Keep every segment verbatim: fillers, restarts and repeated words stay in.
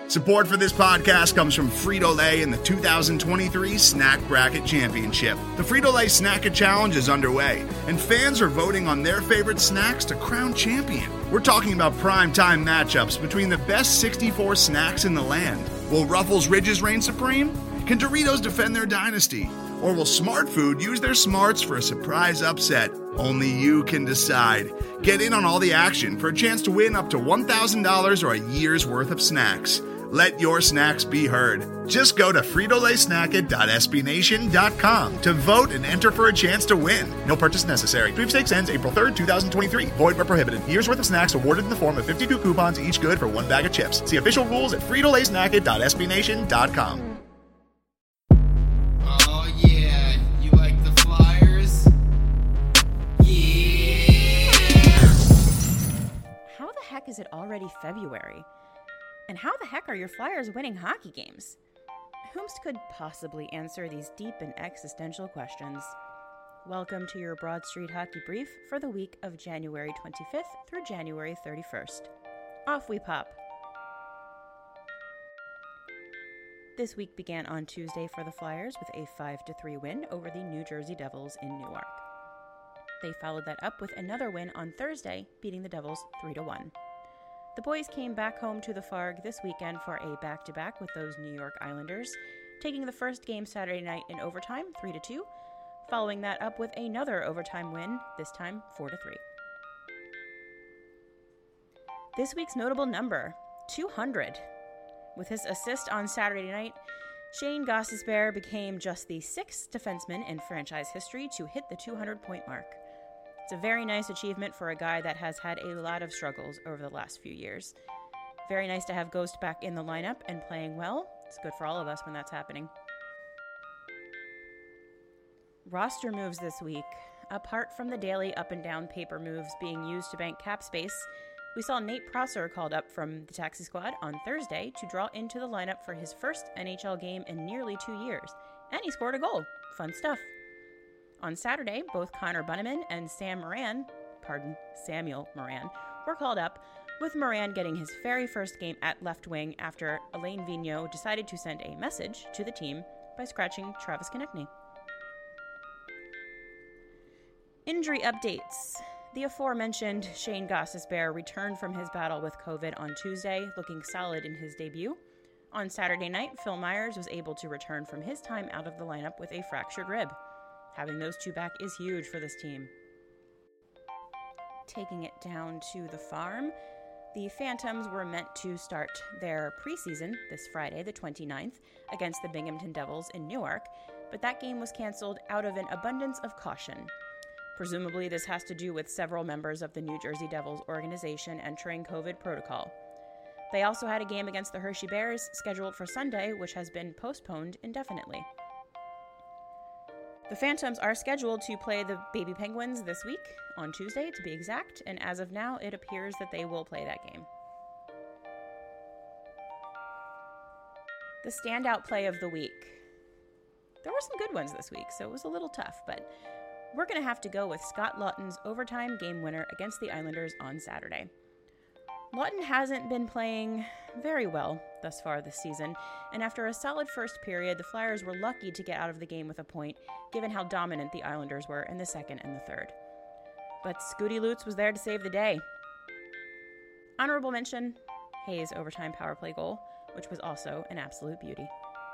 Support for this podcast comes from Frito-Lay and the two thousand twenty-three Snack Bracket Championship. The Frito-Lay Snack-It Challenge is underway, and fans are voting on their favorite snacks to crown champion. We're talking about prime-time matchups between the best sixty-four snacks in the land. Will Ruffles Ridges reign supreme? Can Doritos defend their dynasty? Or will Smart Food use their smarts for a surprise upset? Only you can decide. Get in on all the action for a chance to win up to one thousand dollars or a year's worth of snacks. Let your snacks be heard. Just go to Frito Lay Snack It dot S B Nation dot com to vote and enter for a chance to win. No purchase necessary. Sweepstakes ends April third, twenty twenty-three. Void where prohibited. Year's worth of snacks awarded in the form of fifty-two coupons, each good for one bag of chips. See official rules at Frito Lay Snack It dot S B Nation dot com. Oh yeah, you like the Flyers? Yeah! How the heck is it already February? And how the heck are your Flyers winning hockey games? Whomst could possibly answer these deep and existential questions? Welcome to your Broad Street Hockey Brief for the week of January twenty-fifth through January thirty-first. Off we pop. This week began on Tuesday for the Flyers with a five to three win over the New Jersey Devils in Newark. They followed that up with another win on Thursday, beating the Devils three to one. The boys came back home to the Farg this weekend for a back-to-back with those New York Islanders, taking the first game Saturday night in overtime, three to two, following that up with another overtime win, this time four to three. This week's notable number, two hundred. With his assist on Saturday night, Shane Gostisbehere became just the sixth defenseman in franchise history to hit the two hundred point mark. It's a very nice achievement for a guy that has had a lot of struggles over the last few years. Very nice to have Ghost back in the lineup and playing well. It's good for all of us when that's happening. Roster moves this week. Apart from the daily up and down paper moves being used to bank cap space, we saw Nate Prosser called up from the taxi squad on Thursday to draw into the lineup for his first N H L game in nearly two years. And he scored a goal. Fun stuff. On Saturday, both Connor Bunnaman and Sam Moran, pardon, Samuel Moran, were called up, with Moran getting his very first game at left wing after Alain Vigneault decided to send a message to the team by scratching Travis Konecny. Injury updates. The aforementioned Shane Gostisbehere returned from his battle with COVID on Tuesday, looking solid in his debut. On Saturday night, Phil Myers was able to return from his time out of the lineup with a fractured rib. Having those two back is huge for this team. Taking it down to the farm, the Phantoms were meant to start their preseason this Friday, the twenty-ninth, against the Binghamton Devils in Newark, but that game was canceled out of an abundance of caution. Presumably, this has to do with several members of the New Jersey Devils organization entering COVID protocol. They also had a game against the Hershey Bears scheduled for Sunday, which has been postponed indefinitely. The Phantoms are scheduled to play the Baby Penguins this week, on Tuesday to be exact, and as of now, it appears that they will play that game. The standout play of the week. There were some good ones this week, so it was a little tough, but we're going to have to go with Scott Laughton's overtime game winner against the Islanders on Saturday. Laughton hasn't been playing very well thus far this season, and after a solid first period, the Flyers were lucky to get out of the game with a point, given how dominant the Islanders were in the second and the third. But Scooty Lutz was there to save the day. Honorable mention, Hayes' overtime power play goal, which was also an absolute beauty.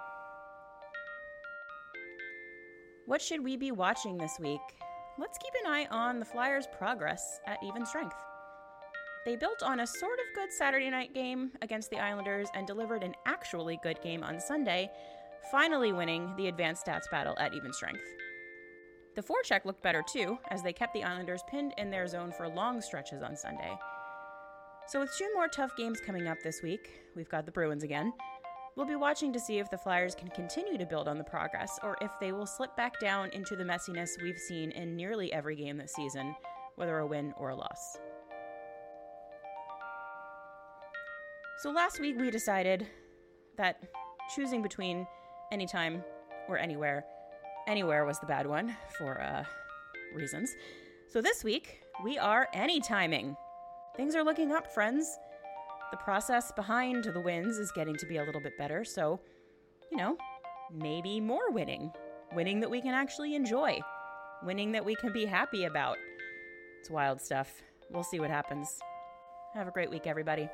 What should we be watching this week? Let's keep an eye on the Flyers' progress at even strength. They built on a sort of good Saturday night game against the Islanders and delivered an actually good game on Sunday, finally winning the advanced stats battle at even strength. The forecheck looked better too, as they kept the Islanders pinned in their zone for long stretches on Sunday. So with two more tough games coming up this week, we've got the Bruins again. We'll be watching to see if the Flyers can continue to build on the progress, or if they will slip back down into the messiness we've seen in nearly every game this season, whether a win or a loss. So last week we decided that choosing between anytime or anywhere, anywhere was the bad one for uh, reasons. So this week we are anytiming. Things are looking up, friends. The process behind the wins is getting to be a little bit better, so, you know, maybe more winning. Winning that we can actually enjoy. Winning that we can be happy about. It's wild stuff. We'll see what happens. Have a great week, everybody.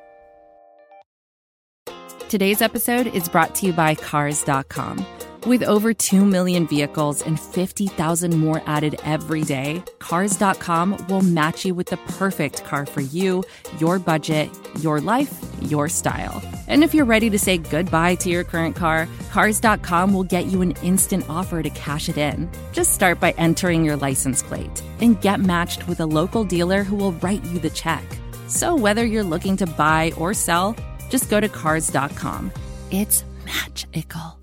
Today's episode is brought to you by Cars dot com. With over two million vehicles and fifty thousand more added every day, Cars dot com will match you with the perfect car for you, your budget, your life, your style. And if you're ready to say goodbye to your current car, Cars dot com will get you an instant offer to cash it in. Just start by entering your license plate and get matched with a local dealer who will write you the check. So whether you're looking to buy or sell, just go to Cars dot com. It's magical.